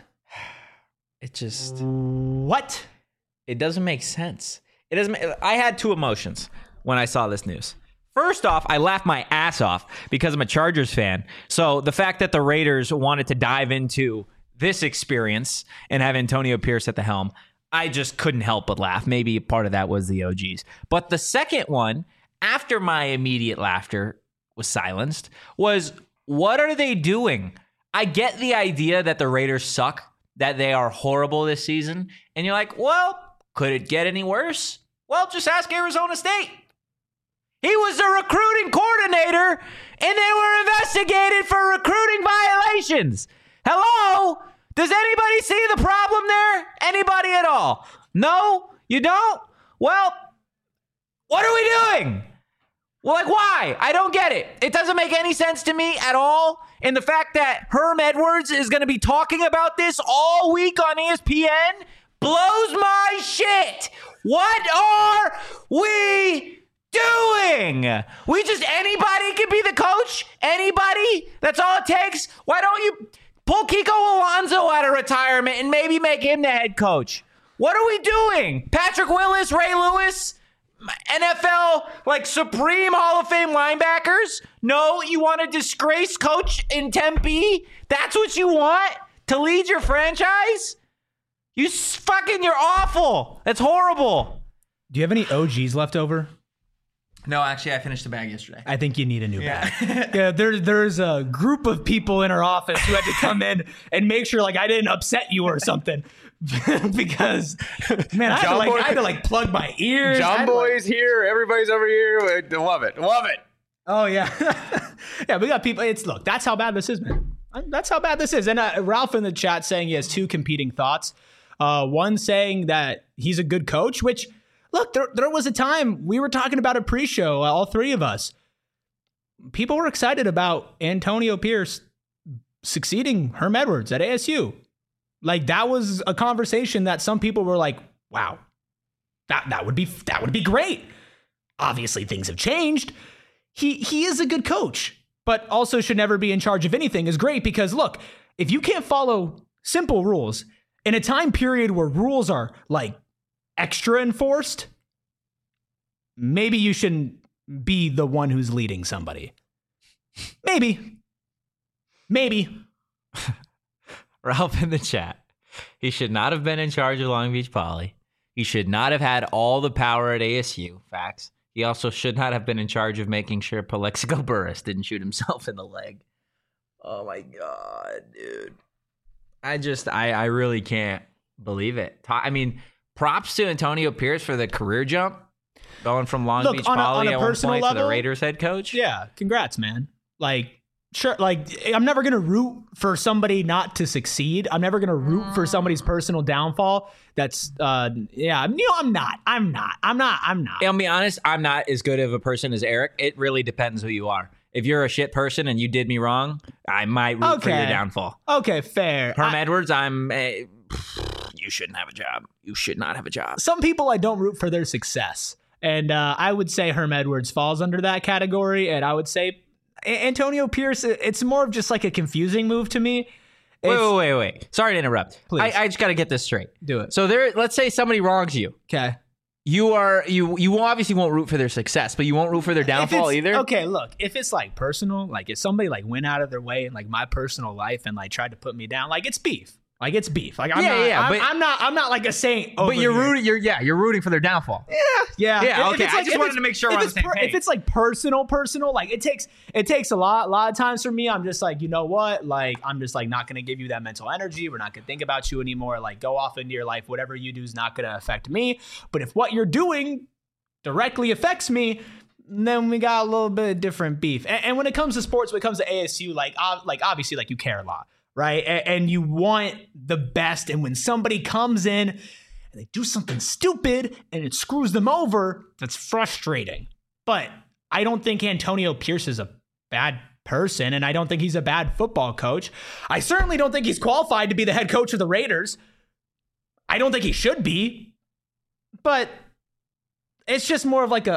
S2: What?
S1: It doesn't make sense. I had two emotions when I saw this news. First off, I laughed my ass off because I'm a Chargers fan. So the fact that the Raiders wanted to dive into this experience and have Antonio Pierce at the helm, I just couldn't help but laugh. Maybe part of that was the OGs. But the second one, after my immediate laughter was silenced, was, what are they doing? I get the idea that the Raiders suck, that they are horrible this season. And you're like, well, could it get any worse? Well, just ask Arizona State. He was the recruiting coordinator, and they were investigated for recruiting violations. Hello? Does anybody see the problem there? Anybody at all? No? You don't? Well, what are we doing? Well, like, why? I don't get it. It doesn't make any sense to me at all. And the fact that Herm Edwards is going to be talking about this all week on ESPN blows my shit. What are we doing? Anybody can be the coach? Anybody? That's all it takes? Why don't you pull Kiko Alonso out of retirement and maybe make him the head coach? What are we doing? Patrick Willis, Ray Lewis, NFL, like Supreme Hall of Fame linebackers? No, you want a disgraced coach in Tempe? That's what you want to lead your franchise? You're awful. That's horrible.
S2: Do you have any OGs left over?
S1: No, actually, I finished the bag yesterday.
S2: I think you need a new bag. Yeah, there's a group of people in our office who had to come in and make sure like I didn't upset you or something. Because, man, I had to plug my ears.
S3: John Boy's here. Everybody's over here. Love it.
S2: Oh, yeah. Yeah, we got people. Look, that's how bad this is, man. That's how bad this is. And Ralph in the chat saying he has two competing thoughts. One saying that he's a good coach, which, look, there was a time we were talking about a pre-show, all three of us. People were excited about Antonio Pierce succeeding Herm Edwards at ASU. Like, that was a conversation that some people were like, wow, that would be great. Obviously, things have changed. He is a good coach, but also should never be in charge of anything is great because, look, if you can't follow simple rules in a time period where rules are, like, extra enforced, maybe you shouldn't be the one who's leading somebody. Maybe.
S1: Ralph in the chat. He should not have been in charge of Long Beach Poly. He should not have had all the power at ASU. Facts. He also should not have been in charge of making sure Plexico Burress didn't shoot himself in the leg. Oh my God, dude. I really can't believe it. I mean, props to Antonio Pierce for the career jump, going from Long Beach Poly at one point to the Raiders head coach.
S2: Yeah, congrats, man. Like, sure, like, I'm never going to root for somebody not to succeed. I'm never going to root for somebody's personal downfall. That's, I'm not.
S1: I'll be honest, I'm not as good of a person as Eric. It really depends who you are. If you're a shit person and you did me wrong, I might root for your downfall.
S2: Okay, fair.
S1: Herm Edwards, you shouldn't have a job. You should not have a job.
S2: Some people I don't root for their success. And I would say Herm Edwards falls under that category. And I would say Antonio Pierce, it's more of just like a confusing move to me.
S1: Wait. Sorry to interrupt.
S2: Please.
S1: I just got to get this straight.
S2: Do it.
S1: So let's say somebody wrongs you.
S2: Okay.
S1: You obviously won't root for their success, but you won't root for their downfall either.
S2: Okay, look, if it's like personal, like if somebody like went out of their way in like my personal life and like tried to put me down, like it's beef. Like it's beef. Like I'm not like a saint.
S1: But you're rooting for their downfall.
S2: Yeah.
S1: Okay. I just wanted to make sure we're on the same page.
S2: If it's like personal, like it takes a lot of times for me. I'm just like, you know what? Like I'm just like not gonna give you that mental energy. We're not gonna think about you anymore. Like go off into your life. Whatever you do is not gonna affect me. But if what you're doing directly affects me, then we got a little bit of different beef. And when it comes to sports, when it comes to ASU, like obviously like you care a lot. Right. And you want the best. And when somebody comes in and they do something stupid and it screws them over, that's frustrating. But I don't think Antonio Pierce is a bad person. And I don't think he's a bad football coach. I certainly don't think he's qualified to be the head coach of the Raiders. I don't think he should be. But it's just more of like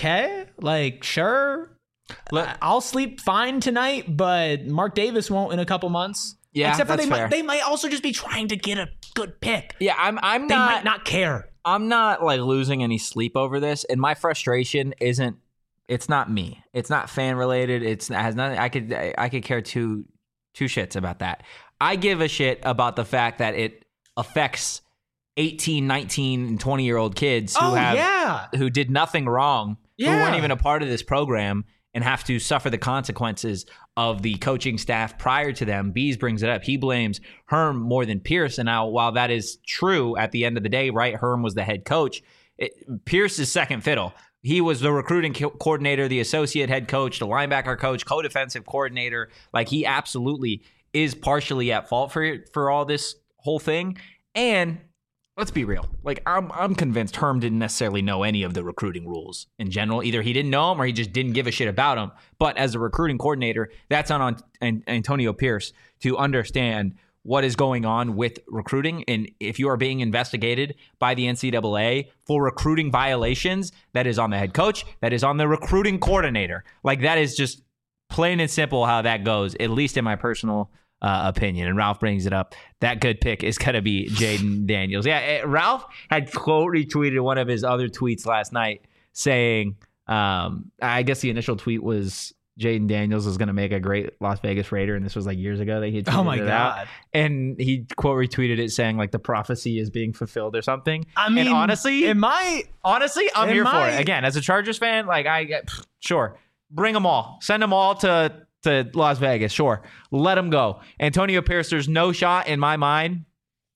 S2: sure. I'll sleep fine tonight, but Mark Davis won't in a couple months.
S1: Yeah,
S2: except for
S1: fair.
S2: They might also just be trying to get a good pick.
S1: Yeah, they
S2: might not care.
S1: I'm not like losing any sleep over this, and my frustration isn't. It's not me. It's not fan related. It has nothing. I could care two shits about that. I give a shit about the fact that it affects 18, 19, and 20-year-old kids who did nothing wrong, who weren't even a part of this program, and have to suffer the consequences of the coaching staff prior to them. Bees brings it up. He blames Herm more than Pierce. And now, while that is true at the end of the day, right, Herm was the head coach. Pierce is second fiddle. He was the recruiting coordinator, the associate head coach, the linebacker coach, co-defensive coordinator. Like, he absolutely is partially at fault for all this whole thing. And let's be real. Like, I'm convinced Herm didn't necessarily know any of the recruiting rules in general. Either he didn't know them or he just didn't give a shit about them. But as a recruiting coordinator, that's on Antonio Pierce to understand what is going on with recruiting. And if you are being investigated by the NCAA for recruiting violations, that is on the head coach, that is on the recruiting coordinator. Like, that is just plain and simple how that goes, at least in my personal opinion. And Ralph brings it up. That good pick is going to be Jayden Daniels. Yeah, Ralph had quote retweeted one of his other tweets last night saying, I guess the initial tweet was Jayden Daniels is going to make a great Las Vegas Raider, and this was like years ago that he had tweeted it out. And he quote retweeted it saying like the prophecy is being fulfilled or something. I mean, and honestly, I'm here for it. Again, as a Chargers fan, like sure, bring them all, send them all to Las Vegas. Sure, let them go. Antonio Pierce, there's no shot in my mind.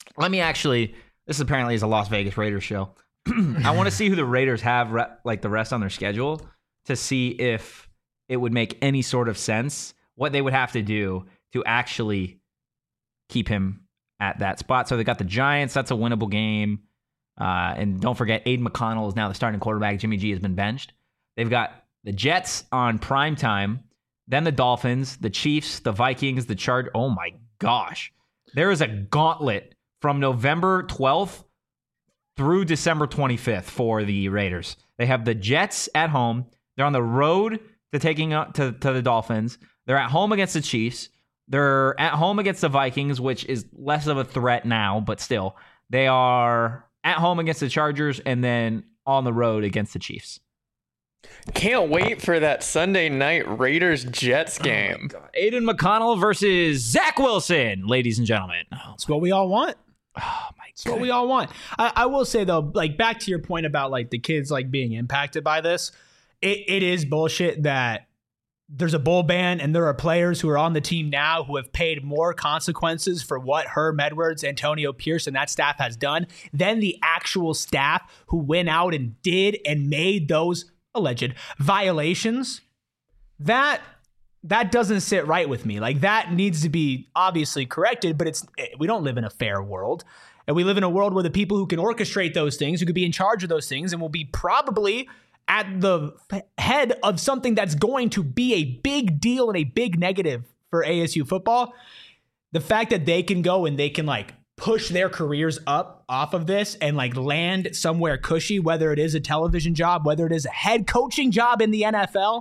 S1: This apparently is a Las Vegas Raiders show. I want to see who the Raiders have like the rest on their schedule to see if it would make any sort of sense what they would have to do to actually keep him at that spot. So they got the Giants. That's a winnable game. And don't forget, Aiden McConnell is now the starting quarterback. Jimmy G has been benched. They've got the Jets on prime time, then the Dolphins, the Chiefs, the Vikings, the Chargers. Oh my gosh. There is a gauntlet from November 12th through December 25th for the Raiders. They have the Jets at home. They're on the road to taking to the Dolphins. They're at home against the Chiefs. They're at home against the Vikings, which is less of a threat now, but still. They are at home against the Chargers and then on the road against the Chiefs.
S3: Can't wait for that Sunday night Raiders-Jets game.
S1: Oh Aiden McConnell versus Zach Wilson, ladies and gentlemen.
S2: That's what we all want. Oh my God. That's what we all want. I will say though, like back to your point about like the kids like being impacted by this. It is bullshit that there's a bowl ban and there are players who are on the team now who have paid more consequences for what Herm Edwards, Antonio Pierce, and that staff has done than the actual staff who went out and did and made those alleged violations. That doesn't sit right with me. Like that needs to be obviously corrected, but we don't live in a fair world. And we live in a world where the people who can orchestrate those things, who could be in charge of those things and will be probably at the head of something that's going to be a big deal and a big negative for ASU football. The fact that they can go and they can like push their careers up off of this and like land somewhere cushy, whether it is a television job, whether it is a head coaching job in the NFL.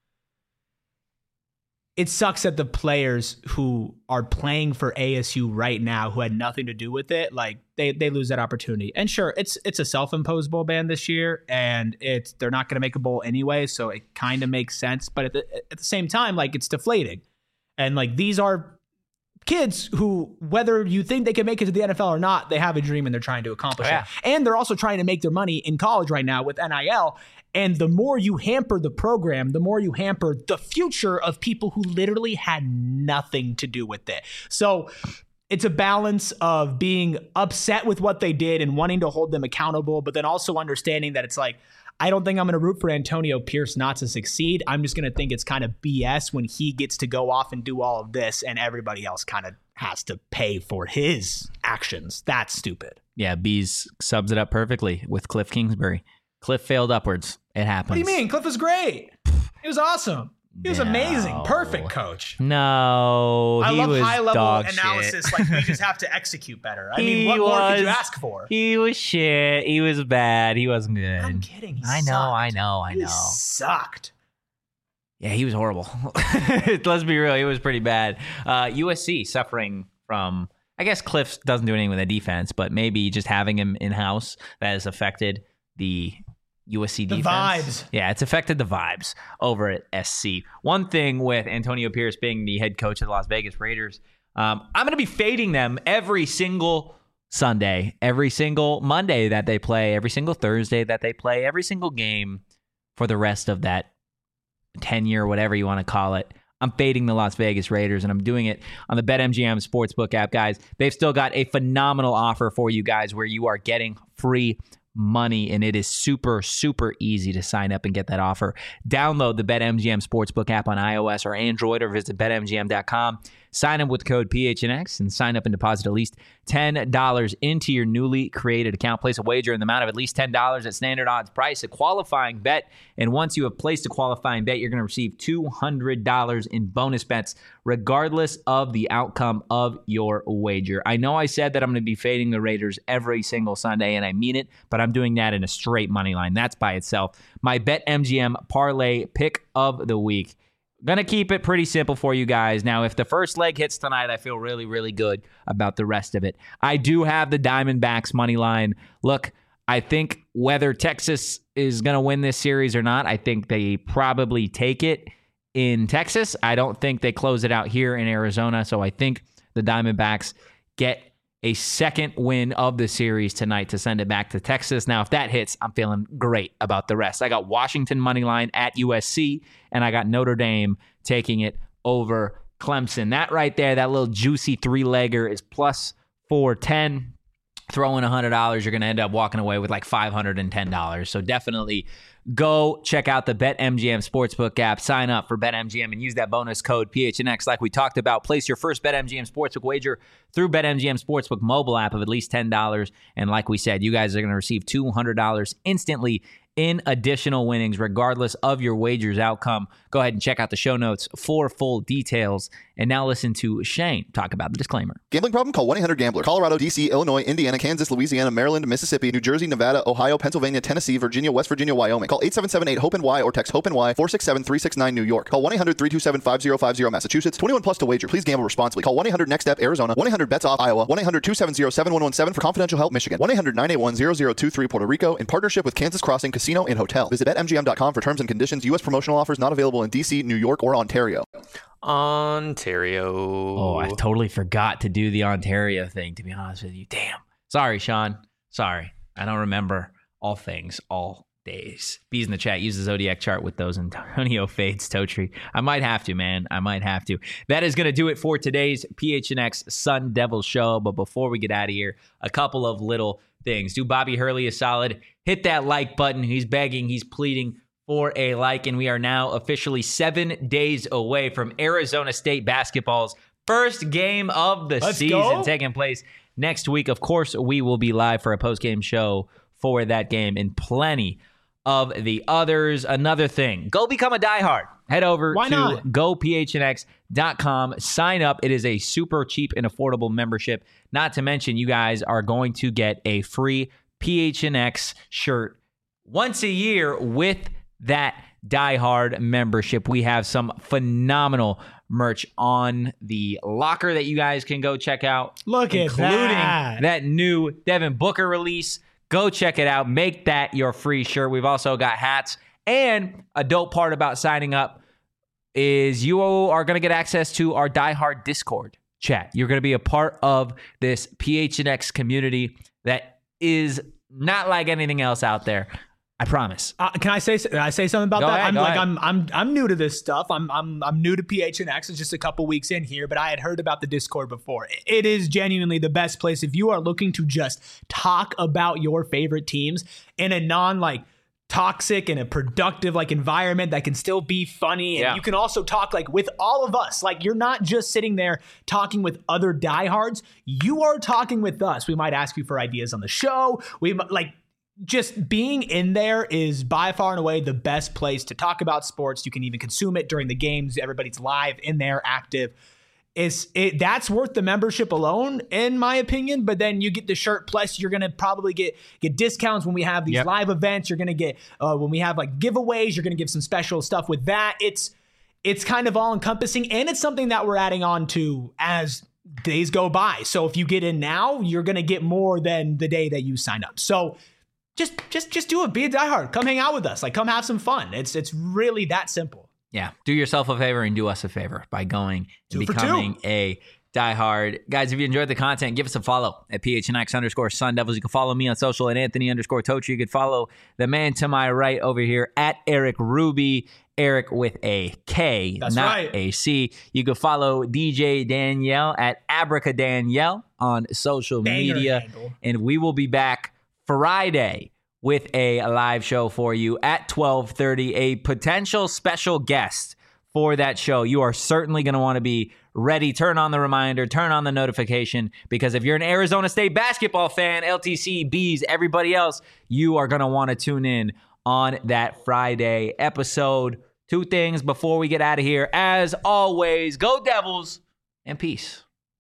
S2: It sucks that the players who are playing for ASU right now, who had nothing to do with it, like they lose that opportunity. And sure, it's a self-imposed bowl ban this year, and they're not going to make a bowl anyway, so it kind of makes sense. But at the same time, like it's deflating, and like these are kids who, whether you think they can make it to the NFL or not, they have a dream and they're trying to accomplish it. And they're also trying to make their money in college right now with NIL. And the more you hamper the program, the more you hamper the future of people who literally had nothing to do with it. So it's a balance of being upset with what they did and wanting to hold them accountable, but then also understanding that it's like, I don't think I'm going to root for Antonio Pierce not to succeed. I'm just going to think it's kind of BS when he gets to go off and do all of this and everybody else kind of has to pay for his actions. That's stupid.
S1: Yeah, Bees sums it up perfectly with Cliff Kingsbury. Cliff failed upwards. It happens.
S2: What do you mean? Cliff was great. He was awesome. He was amazing. Perfect coach.
S1: No,
S2: I love
S1: was
S2: high-level analysis. Like, we just have to execute better. I mean, what more could you ask for?
S1: He was shit. He was bad. He wasn't good.
S2: I'm kidding.
S1: I know.
S2: He sucked.
S1: Yeah, he was horrible. Let's be real. He was pretty bad. USC suffering from, I guess Cliff doesn't do anything with the defense, but maybe just having him in-house that has affected the USC defense. The
S2: vibes.
S1: Yeah, it's affected the vibes over at SC. One thing with Antonio Pierce being the head coach of the Las Vegas Raiders, I'm going to be fading them every single Sunday, every single Monday that they play, every single Thursday that they play, every single game for the rest of that tenure, whatever you want to call it. I'm fading the Las Vegas Raiders, and I'm doing it on the BetMGM Sportsbook app, guys. They've still got a phenomenal offer for you guys where you are getting free money, and it is super, super easy to sign up and get that offer. Download the BetMGM Sportsbook app on iOS or Android, or visit BetMGM.com. Sign up with code PHNX and sign up and deposit at least $10 into your newly created account. Place a wager in the amount of at least $10 at standard odds price, a qualifying bet. And once you have placed a qualifying bet, you're going to receive $200 in bonus bets, regardless of the outcome of your wager. I know I said that I'm going to be fading the Raiders every single Sunday, and I mean it, but I'm doing that in a straight money line. That's by itself. My BetMGM parlay pick of the week Going to keep it pretty simple for you guys. Now, if the first leg hits tonight, I feel really, really good about the rest of it. I do have the Diamondbacks money line. Look, I think whether Texas is going to win this series or not, I think they probably take it in Texas. I don't think they close it out here in Arizona. So I think the Diamondbacks get a second win of the series tonight to send it back to Texas. Now, if that hits, I'm feeling great about the rest. I got Washington money line at USC, and I got Notre Dame taking it over Clemson. That right there, that little juicy three-legger is plus 410. Throw in $100, you're going to end up walking away with like $510. So definitely go check out the BetMGM Sportsbook app. Sign up for BetMGM and use that bonus code PHNX like we talked about. Place your first BetMGM Sportsbook wager through BetMGM Sportsbook mobile app of at least $10. And like we said, you guys are going to receive $200 instantly in additional winnings, regardless of your wager's outcome. Go ahead and check out the show notes for full details. And now listen to Shane talk about the disclaimer.
S4: Gambling problem? Call 1-800-GAMBLER. Colorado, D.C., Illinois, Indiana, Kansas, Louisiana, Maryland, Mississippi, New Jersey, Nevada, Ohio, Pennsylvania, Tennessee, Virginia, West Virginia, Wyoming. Call 877-8-HOPE-NY or text HOPE-NY 467-369 New York. Call 1-800-327-5050 Massachusetts. 21 plus to wager. Please gamble responsibly. Call 1-800-NEXT-STEP Arizona. 1-800-BETS-OFF Iowa. 1-800-270-7117 for confidential help Michigan. 1-800-981-0023 Puerto Rico in partnership with Kansas Crossing Casino and Hotel. Visit BetMGM.com for terms and conditions. U.S. promotional offers not available in D.C., New York, or Ontario.
S3: Ontario.
S1: Oh, I totally forgot to do the Ontario thing, to be honest with you. Damn. Sorry, Sean. Sorry. I don't remember all things, all days. Bees in the chat. Use the Zodiac chart with those Antonio fades, Totri. I might have to, man. I might have to. That is going to do it for today's PHNX Sun Devil show. But before we get out of here, a couple of little things. Do Bobby Hurley a solid. Hit that like button. He's begging. He's pleading for a like, and we are now officially 7 days away from Arizona State basketball's first game of the season taking place next week. Of course, we will be live for a post-game show for that game and plenty of the others. Another thing, go become a diehard. Head over to gophnx.com. Sign up. It is a super cheap and affordable membership. Not to mention, you guys are going to get a free PHNX shirt once a year with that diehard membership. We have some phenomenal merch on the locker that you guys can go check out.
S2: Including
S1: that new Devin Booker release. Go check it out. Make that your free shirt. We've also got hats. And a dope part about signing up is you are going to get access to our diehard Discord chat. You're going to be a part of this PHNX community that is not like anything else out there. I promise.
S2: Can I say something about
S1: Go
S2: that?
S1: ahead.
S2: I'm new to this stuff. I'm new to PHNX. It's just a couple weeks in here, but I had heard about the Discord before. It is genuinely the best place if you are looking to just talk about your favorite teams in a non toxic and a productive environment that can still be funny. And you can also talk with all of us. You're not just sitting there talking with other diehards. You are talking with us. We might ask you for ideas on the show. Just being in there is by far and away the best place to talk about sports. You can even consume it during the games. Everybody's live in there, active. That's worth the membership alone, in my opinion. But then you get the shirt. Plus, you're gonna probably get discounts when we have these live events. You're gonna get when we have giveaways. You're gonna give some special stuff with that. It's kind of all encompassing, and it's something that we're adding on to as days go by. So if you get in now, you're gonna get more than the day that you sign up. So Just do it. Be a diehard. Come hang out with us. Come have some fun. It's really that simple.
S1: Yeah. Do yourself a favor and do us a favor by going and becoming a diehard. Guys, if you enjoyed the content, give us a follow at PHNX_Sun Devils. You can follow me on social at Anthony_Totri. You could follow the man to my right over here at Eric Ruby. Eric with a K, not a C. You can follow DJ Danielle at Abracadanielle on social media.
S2: Handle.
S1: And we will be back Friday with a live show for you at 12:30, a potential special guest for that show. You are certainly going to want to be ready. Turn on the reminder, turn on the notification, because if you're an Arizona State basketball fan, LTC, Bees, everybody else, you are going to want to tune in on that Friday episode. Two things before we get out of here. As always, go Devils and peace.